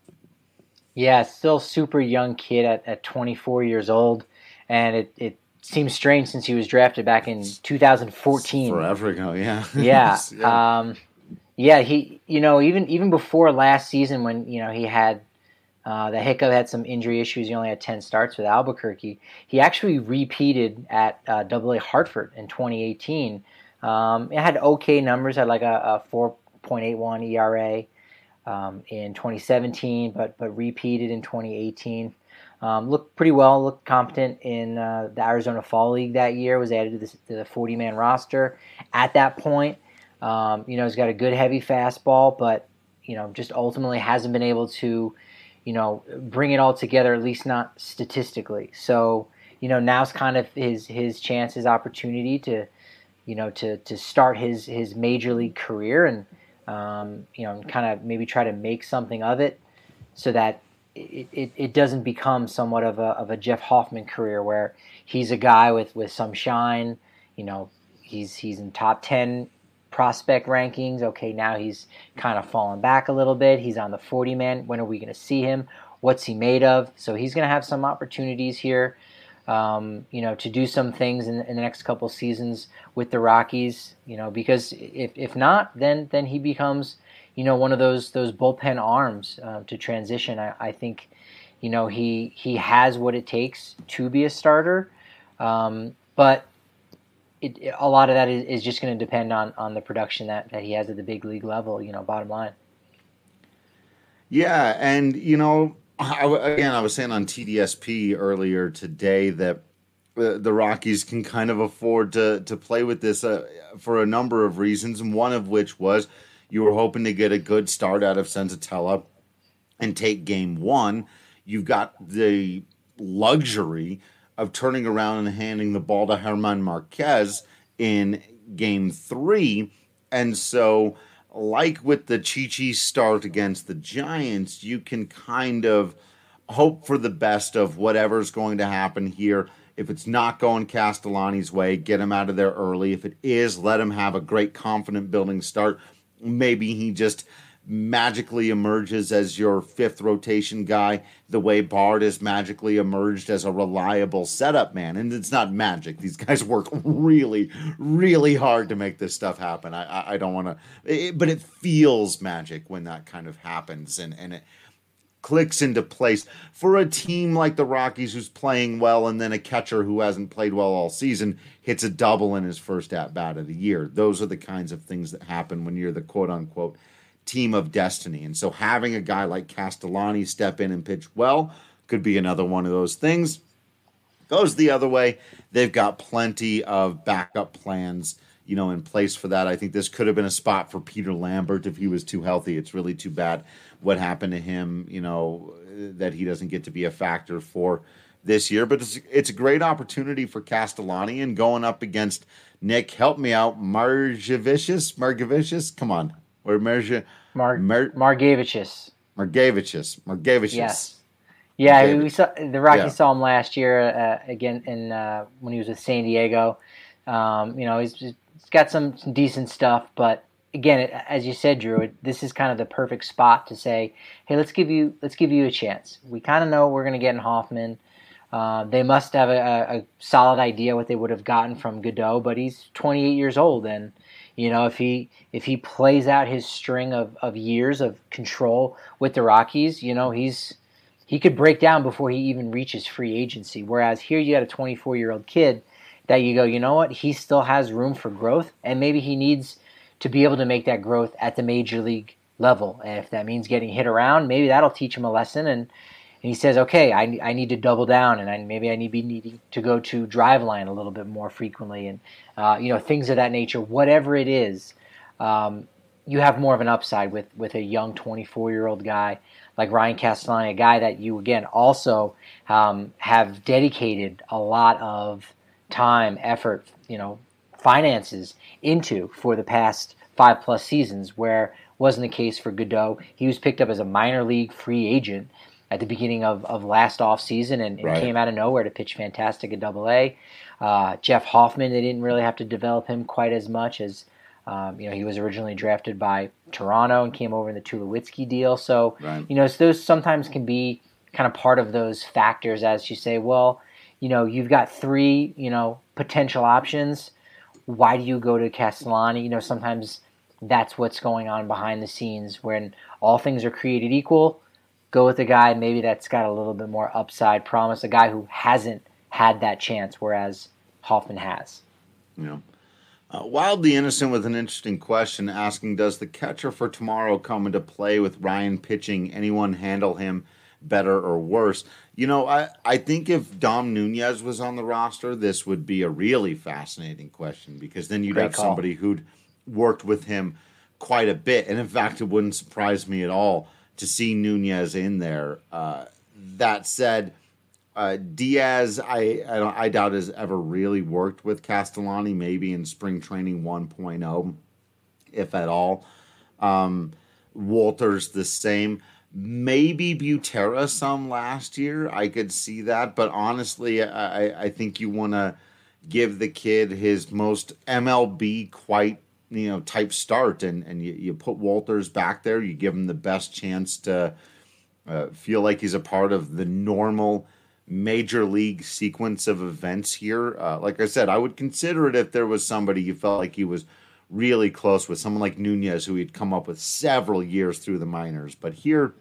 Yeah, still super young kid at, at twenty-four years old, and it, it seems strange since he was drafted back in two thousand fourteen. Forever ago, yeah. Yeah. yeah. Um, yeah, he, you know, even even before last season when, you know, he had Uh, the hiccup, had some injury issues. He only had ten starts with Albuquerque. He actually repeated at uh, Double A Hartford in twenty eighteen. Um, it had okay numbers, had like a, a four point eight one E R A um, in twenty seventeen, but but repeated in twenty eighteen. Um, looked pretty well, looked competent in uh, the Arizona Fall League that year, was added to, this, to the forty-man roster at that point. Um, you know, he's got a good heavy fastball, but, you know, just ultimately hasn't been able to, you know, bring it all together, at least not statistically. So, you know, now's kind of his his chance, his opportunity to, you know, to to start his his major league career and, um, you know, kind of maybe try to make something of it so that, it, it, it doesn't become somewhat of a of a Jeff Hoffman career where he's a guy with, with some shine. You know, he's he's in top ten prospect rankings. Okay, now he's kind of fallen back a little bit. He's on the forty man. When are we going to see him? What's he made of? So he's going to have some opportunities here, um, you know, to do some things in, in the next couple seasons with the Rockies. You know, because if if not, then then he becomes, you know, one of those those bullpen arms uh, to transition. I, I think, you know, he he has what it takes to be a starter, um, but it, a lot of that is, is just going to depend on, on the production that, that he has at the big league level. You know, bottom line. Yeah, and you know, I, again, I was saying on T D S P earlier today that the, the Rockies can kind of afford to to play with this uh, for a number of reasons, and one of which was you were hoping to get a good start out of Senzatella and take game one. You've got the luxury of turning around and handing the ball to German Marquez in game three. And so, like with the Chi-Chi start against the Giants, you can kind of hope for the best of whatever's going to happen here. If it's not going Castellani's way, get him out of there early. If it is, let him have a great confident building start. Maybe he just magically emerges as your fifth rotation guy the way Bard has magically emerged as a reliable setup man. And it's not magic. These guys work really, really hard to make this stuff happen. I, I, I don't want to, but it feels magic when that kind of happens and, and it clicks into place for a team like the Rockies who's playing well and then a catcher who hasn't played well all season hits a double in his first at-bat of the year. Those are the kinds of things that happen when you're the quote-unquote team of destiny. And so having a guy like Castellani step in and pitch well could be another one of those things. Goes the other way, they've got plenty of backup plans, you know, in place for that. I think this could have been a spot for Peter Lambert if he was too healthy. It's really too bad what happened to him, you know, that he doesn't get to be a factor for this year. But it's, it's a great opportunity for Castellani, and going up against Nick, help me out, Margevicius, Margevicius, come on. Or Marge, Mar- Mar- Margevicius. Margevicius. Margevicius. Yes. Yeah, Margevicius. we saw the Rockies Yeah. saw him last year uh, again in uh, when he was with San Diego. Um, you know, he's, he's got some, some decent stuff, but again, it, as you said, Drew, it, this is kind of the perfect spot to say, hey, let's give you let's give you a chance. We kind of know what we're going to get in Hoffman. Uh, they must have a, a solid idea what they would have gotten from Godot, but he's twenty-eight years old, and you know if he if he plays out his string of, of years of control with the Rockies, you know he's he could break down before he even reaches free agency. Whereas here you got a twenty-four-year-old kid that you go, you know what, he still has room for growth, and maybe he needs to be able to make that growth at the major league level. And if that means getting hit around, maybe that'll teach him a lesson. And, and he says, okay, I, I need to double down, and I, maybe I need to be needing to go to Driveline a little bit more frequently, and uh, you know things of that nature. Whatever it is, um, you have more of an upside with with a young twenty-four-year-old guy like Ryan Castellani, a guy that you again also um, have dedicated a lot of time, effort, you know, finances into for the past five plus seasons, where wasn't the case for Godot. He was picked up as a minor league free agent at the beginning of, of last offseason and, and Right. came out of nowhere to pitch fantastic at Double A. Uh, Jeff Hoffman, they didn't really have to develop him quite as much as um, you know he was originally drafted by Toronto and came over in the Tulowitzki deal. So Right. you know so those sometimes can be kind of part of those factors as you say, well, you know you've got three you know potential options. Why do you go to Castellani? You know, sometimes that's what's going on behind the scenes when all things are created equal. Go with a guy maybe that's got a little bit more upside promise, a guy who hasn't had that chance, whereas Hoffman has. You know, uh, Wildly Innocent with an interesting question asking, does the catcher for tomorrow come into play with Ryan pitching? Anyone handle him better or worse? You know, I, I think if Dom Nunez was on the roster, this would be a really fascinating question, because then you'd Great have call. somebody who'd worked with him quite a bit. And in fact, it wouldn't surprise me at all to see Nunez in there. Uh, that said, uh, Diaz, I I, don't, I doubt has ever really worked with Castellani, maybe in spring training one point oh, if at all. Um, Walter's the same. Maybe Butera some last year. I could see that. But honestly, I, I think you want to give the kid his most M L B quite, you know, type start. And, and you, you put Walters back there. You give him the best chance to uh, feel like he's a part of the normal major league sequence of events here. Uh, like I said, I would consider it if there was somebody you felt like he was really close with, someone like Nunez, who he'd come up with several years through the minors. But here,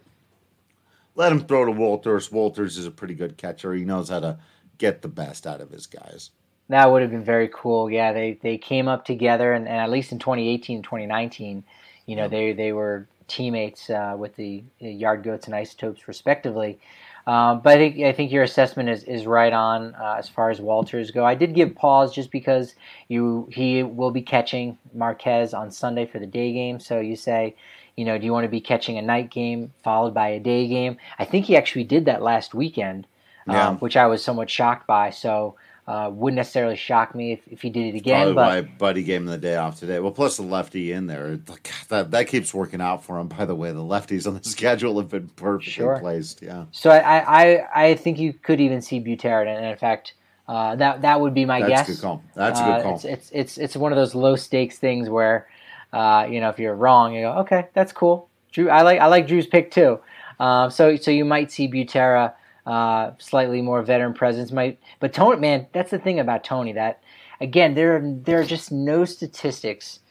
let him throw to Walters. Walters is a pretty good catcher. He knows how to get the best out of his guys. That would have been very cool. Yeah, they, they came up together, and, and at least in twenty eighteen and twenty nineteen, you know, they, they were teammates uh, with the Yard Goats and Isotopes, respectively. Um, but I think I think your assessment is, is right on uh, as far as Walters go. I did give pause just because you he will be catching Marquez on Sunday for the day game. So you say, you know, do you want to be catching a night game followed by a day game? I think he actually did that last weekend, yeah. um, which I was somewhat shocked by. So uh, wouldn't necessarily shock me if, if he did it again. Probably but why Buddy gave him the day off today. Well, plus the lefty in there. God, that that keeps working out for him. By the way, the lefties on the schedule have been perfectly sure. placed. Yeah. So I, I, I think you could even see Butera, and in fact, uh, that that would be my That's guess. That's a good call. That's a uh, good call. It's, it's it's it's one of those low stakes things where, uh, you know, if you're wrong, you go, okay, that's cool. Drew, I like I like Drew's pick too. Uh, so so you might see Butera. Uh, slightly more veteran presence, might, but Tony, man, that's the thing about Tony. That again, there are, there are just no statistics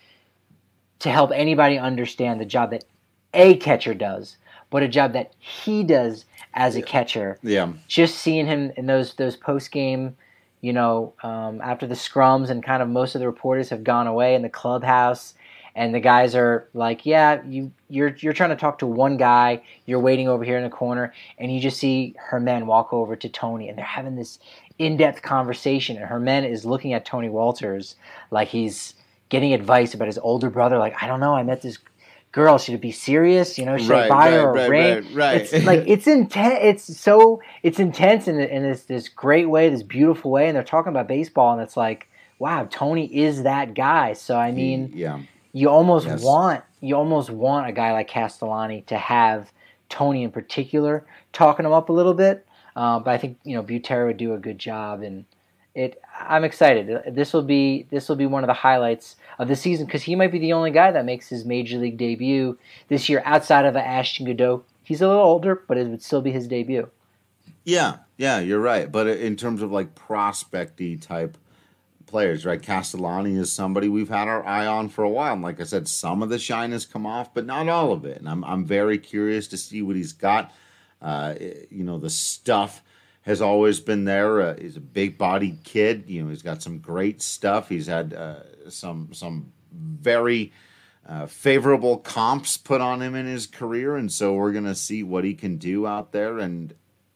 to help anybody understand the job that a catcher does, but a job that he does as a catcher. Yeah, just seeing him in those those post game, you know, um, after the scrums and kind of most of the reporters have gone away in the clubhouse. And the guys are like, yeah, you, you're you're trying to talk to one guy. You're waiting over here in the corner, and you just see Herman walk over to Tony, and they're having this in-depth conversation. And Herman is looking at Tony Walters like he's getting advice about his older brother. Like, I don't know, I met this girl. Should it be serious? You know, should right, I buy right, her a right, ring? Right, right. It's like it's intense. It's so it's intense in in this this great way, this beautiful way. And they're talking about baseball, and it's like, wow, Tony is that guy. So I mean, he, yeah. You almost yes. want you almost want a guy like Castellani to have Tony in particular talking him up a little bit, uh, but I think you know Butera would do a good job, and it. I'm excited. This will be this will be one of the highlights of the season because he might be the only guy that makes his major league debut this year outside of Ashton Goudeau. He's a little older, but it would still be his debut. Yeah, yeah, you're right. But in terms of like prospecty type players, right? Castellani is somebody we've had our eye on for a while. And like I said, some of the shine has come off, but not all of it. And I'm I'm very curious to see what he's got. Uh, you know, the stuff has always been there. Uh, he's a big-bodied kid. You know, he's got some great stuff. He's had uh, some some very uh, favorable comps put on him in his career, and so we're gonna see what he can do out there. And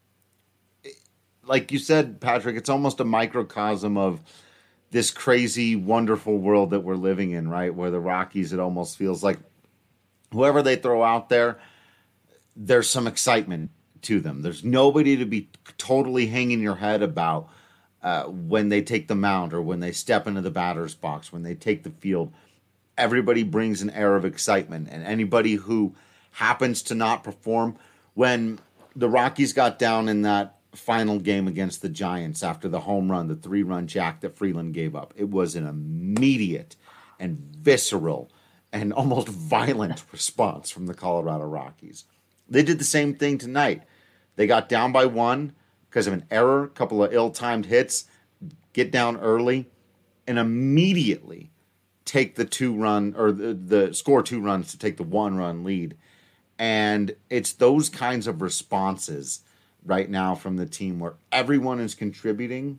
like you said, Patrick, it's almost a microcosm of this crazy, wonderful world that we're living in, right? Where the Rockies, it almost feels like whoever they throw out there, there's some excitement to them. There's nobody to be totally hanging your head about uh, when they take the mound or when they step into the batter's box, when they take the field. Everybody brings an air of excitement, and anybody who happens to not perform, when the Rockies got down in that final game against the Giants after the home run, the three-run jack that Freeland gave up, it was an immediate and visceral and almost violent response from the Colorado Rockies. They did the same thing tonight. They got down by one because of an error, a couple of ill-timed hits, get down early, and immediately take the two-run, or the, the score two runs to take the one-run lead. And it's those kinds of responses right now from the team where everyone is contributing.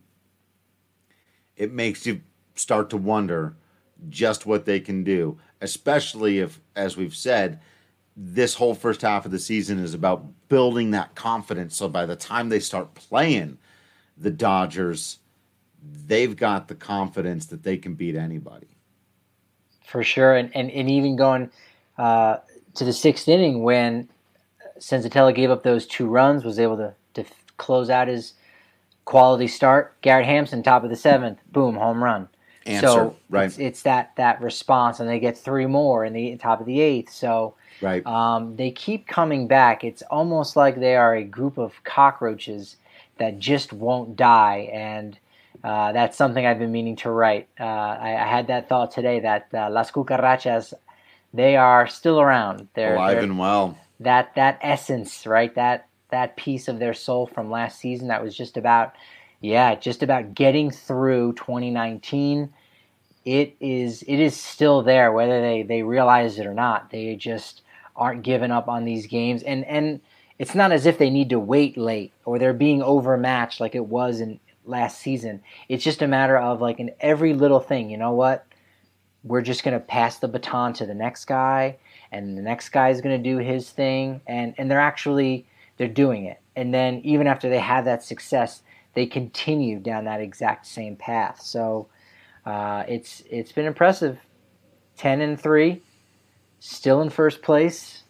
It makes you start to wonder just what they can do, especially if, as we've said, this whole first half of the season is about building that confidence. So by the time they start playing the Dodgers, they've got the confidence that they can beat anybody. For sure. And, and, and even going uh, to the sixth inning when Senzatella gave up those two runs, was able to, to close out his quality start. Garrett Hampson, top of the seventh, boom, home run. answer, so right? It's, it's that that response, and they get three more in the top of the eighth. So right. um, they keep coming back. It's almost like they are a group of cockroaches that just won't die, and uh, that's something I've been meaning to write. Uh, I, I had that thought today that uh, Las Cucarachas, they are still around. They're alive they're, and well. That that essence, right? That that piece of their soul from last season that was just about, yeah, just about getting through twenty nineteen. It is it is still there, whether they, they realize it or not. They just aren't giving up on these games, and and it's not as if they need to wait late or they're being overmatched like it was in last season. It's just a matter of like in every little thing, you know what? We're just going to pass the baton to the next guy, and the next guy is going to do his thing, and, and they're actually they're doing it. And then even after they have that success, they continue down that exact same path. So uh, it's it's been impressive. ten and three, still in first place,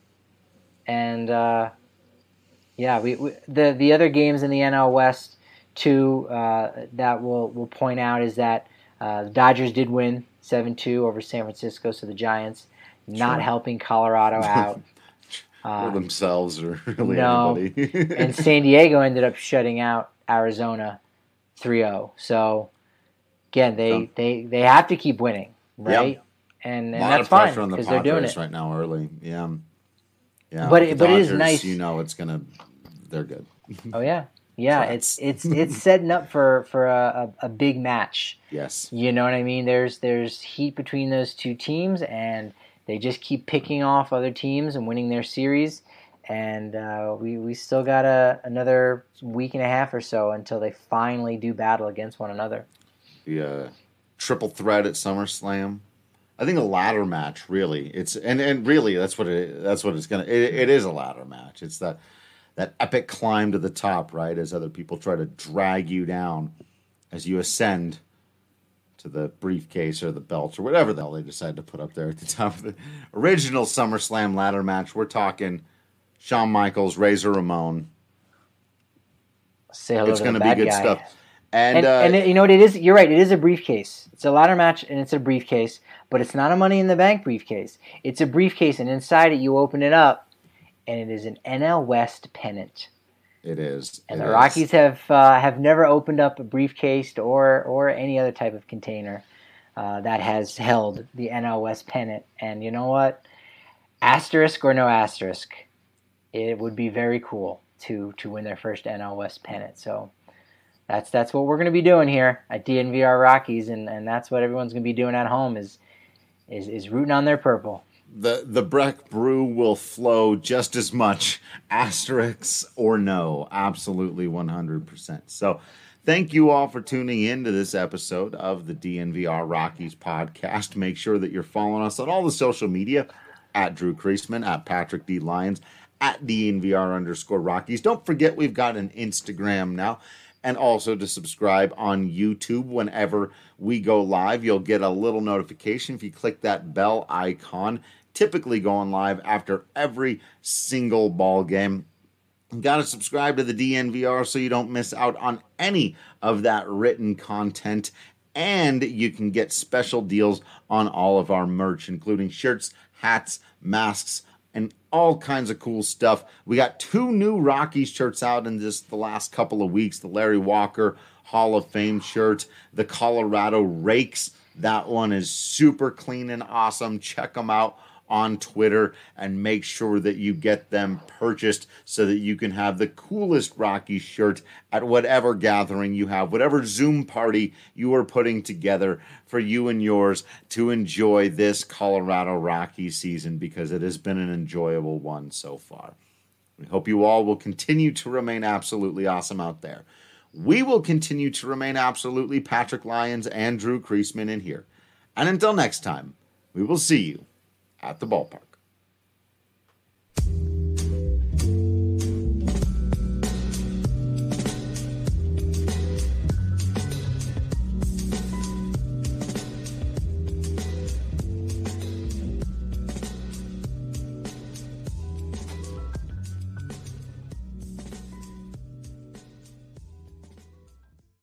and uh, yeah, we, we the the other games in the N L West too uh, that we'll we'll point out is that uh, the Dodgers did win seven two over San Francisco, so the Giants not Sure. helping Colorado out. or Uh, themselves or really no. anybody. and San Diego ended up shutting out Arizona three oh. So again, they, So- they, they have to keep winning, right? And, A and lot that's of pressure fine on the because they're doing Padres it. right now early. Yeah. Yeah. But the it- but it is Dodgers, nice- You know it's gonna they're good. Oh yeah, yeah. Tracks. It's it's it's setting up for for a, a, a big match. Yes. You know what I mean? There's there's heat between those two teams, and they just keep picking off other teams and winning their series. And uh, we we still got a another week and a half or so until they finally do battle against one another. The uh, triple threat at SummerSlam. I think a ladder match, really. It's and, and really that's what it that's what it's gonna. It, it is a ladder match. It's that that epic climb to the top, right? As other people try to drag you down as you ascend to the briefcase or the belt or whatever the hell they decide to put up there at the top of the original SummerSlam ladder match. We're talking Shawn Michaels, Razor Ramon. Say hello It's to going the to be bad good guy. stuff. And, And, uh, and it- you know what it is? You're right. It is a briefcase. It's a ladder match, and it's a briefcase. But it's not a Money in the Bank briefcase. It's a briefcase, and inside it, you open it up, and it is an N L West pennant. it is. And it the is. Rockies have uh, have never opened up a briefcase or or any other type of container uh, that has held the N L West pennant. And you know what? Asterisk or no asterisk, it would be very cool to to win their first N L West pennant. So that's that's what we're going to be doing here at D N V R Rockies, and, and that's what everyone's going to be doing at home is is is rooting on their purple. The the Breck Brew will flow just as much, asterisks or no, absolutely one hundred percent. So thank you all for tuning in to this episode of the D N V R Rockies podcast. Make sure that you're following us on all the social media, at Drew Kreisman, at Patrick D. Lyons, at D N V R underscore Rockies. Don't forget we've got an Instagram now, and also to subscribe on YouTube whenever we go live. You'll get a little notification if you click that bell icon. Typically going live after every single ball game. You got to subscribe to the D N V R so you don't miss out on any of that written content. And you can get special deals on all of our merch, including shirts, hats, masks, and all kinds of cool stuff. We got two new Rockies shirts out in just the last couple of weeks. The Larry Walker Hall of Fame shirt, the Colorado Rakes. That one is super clean and awesome. Check them out on Twitter and make sure that you get them purchased so that you can have the coolest Rockies shirt at whatever gathering you have, whatever Zoom party you are putting together for you and yours to enjoy this Colorado Rockies season, because it has been an enjoyable one so far. We hope you all will continue to remain absolutely awesome out there. We will continue to remain absolutely Patrick Lyons and Drew Kreisman in here. And until next time, we will see you at the ballpark.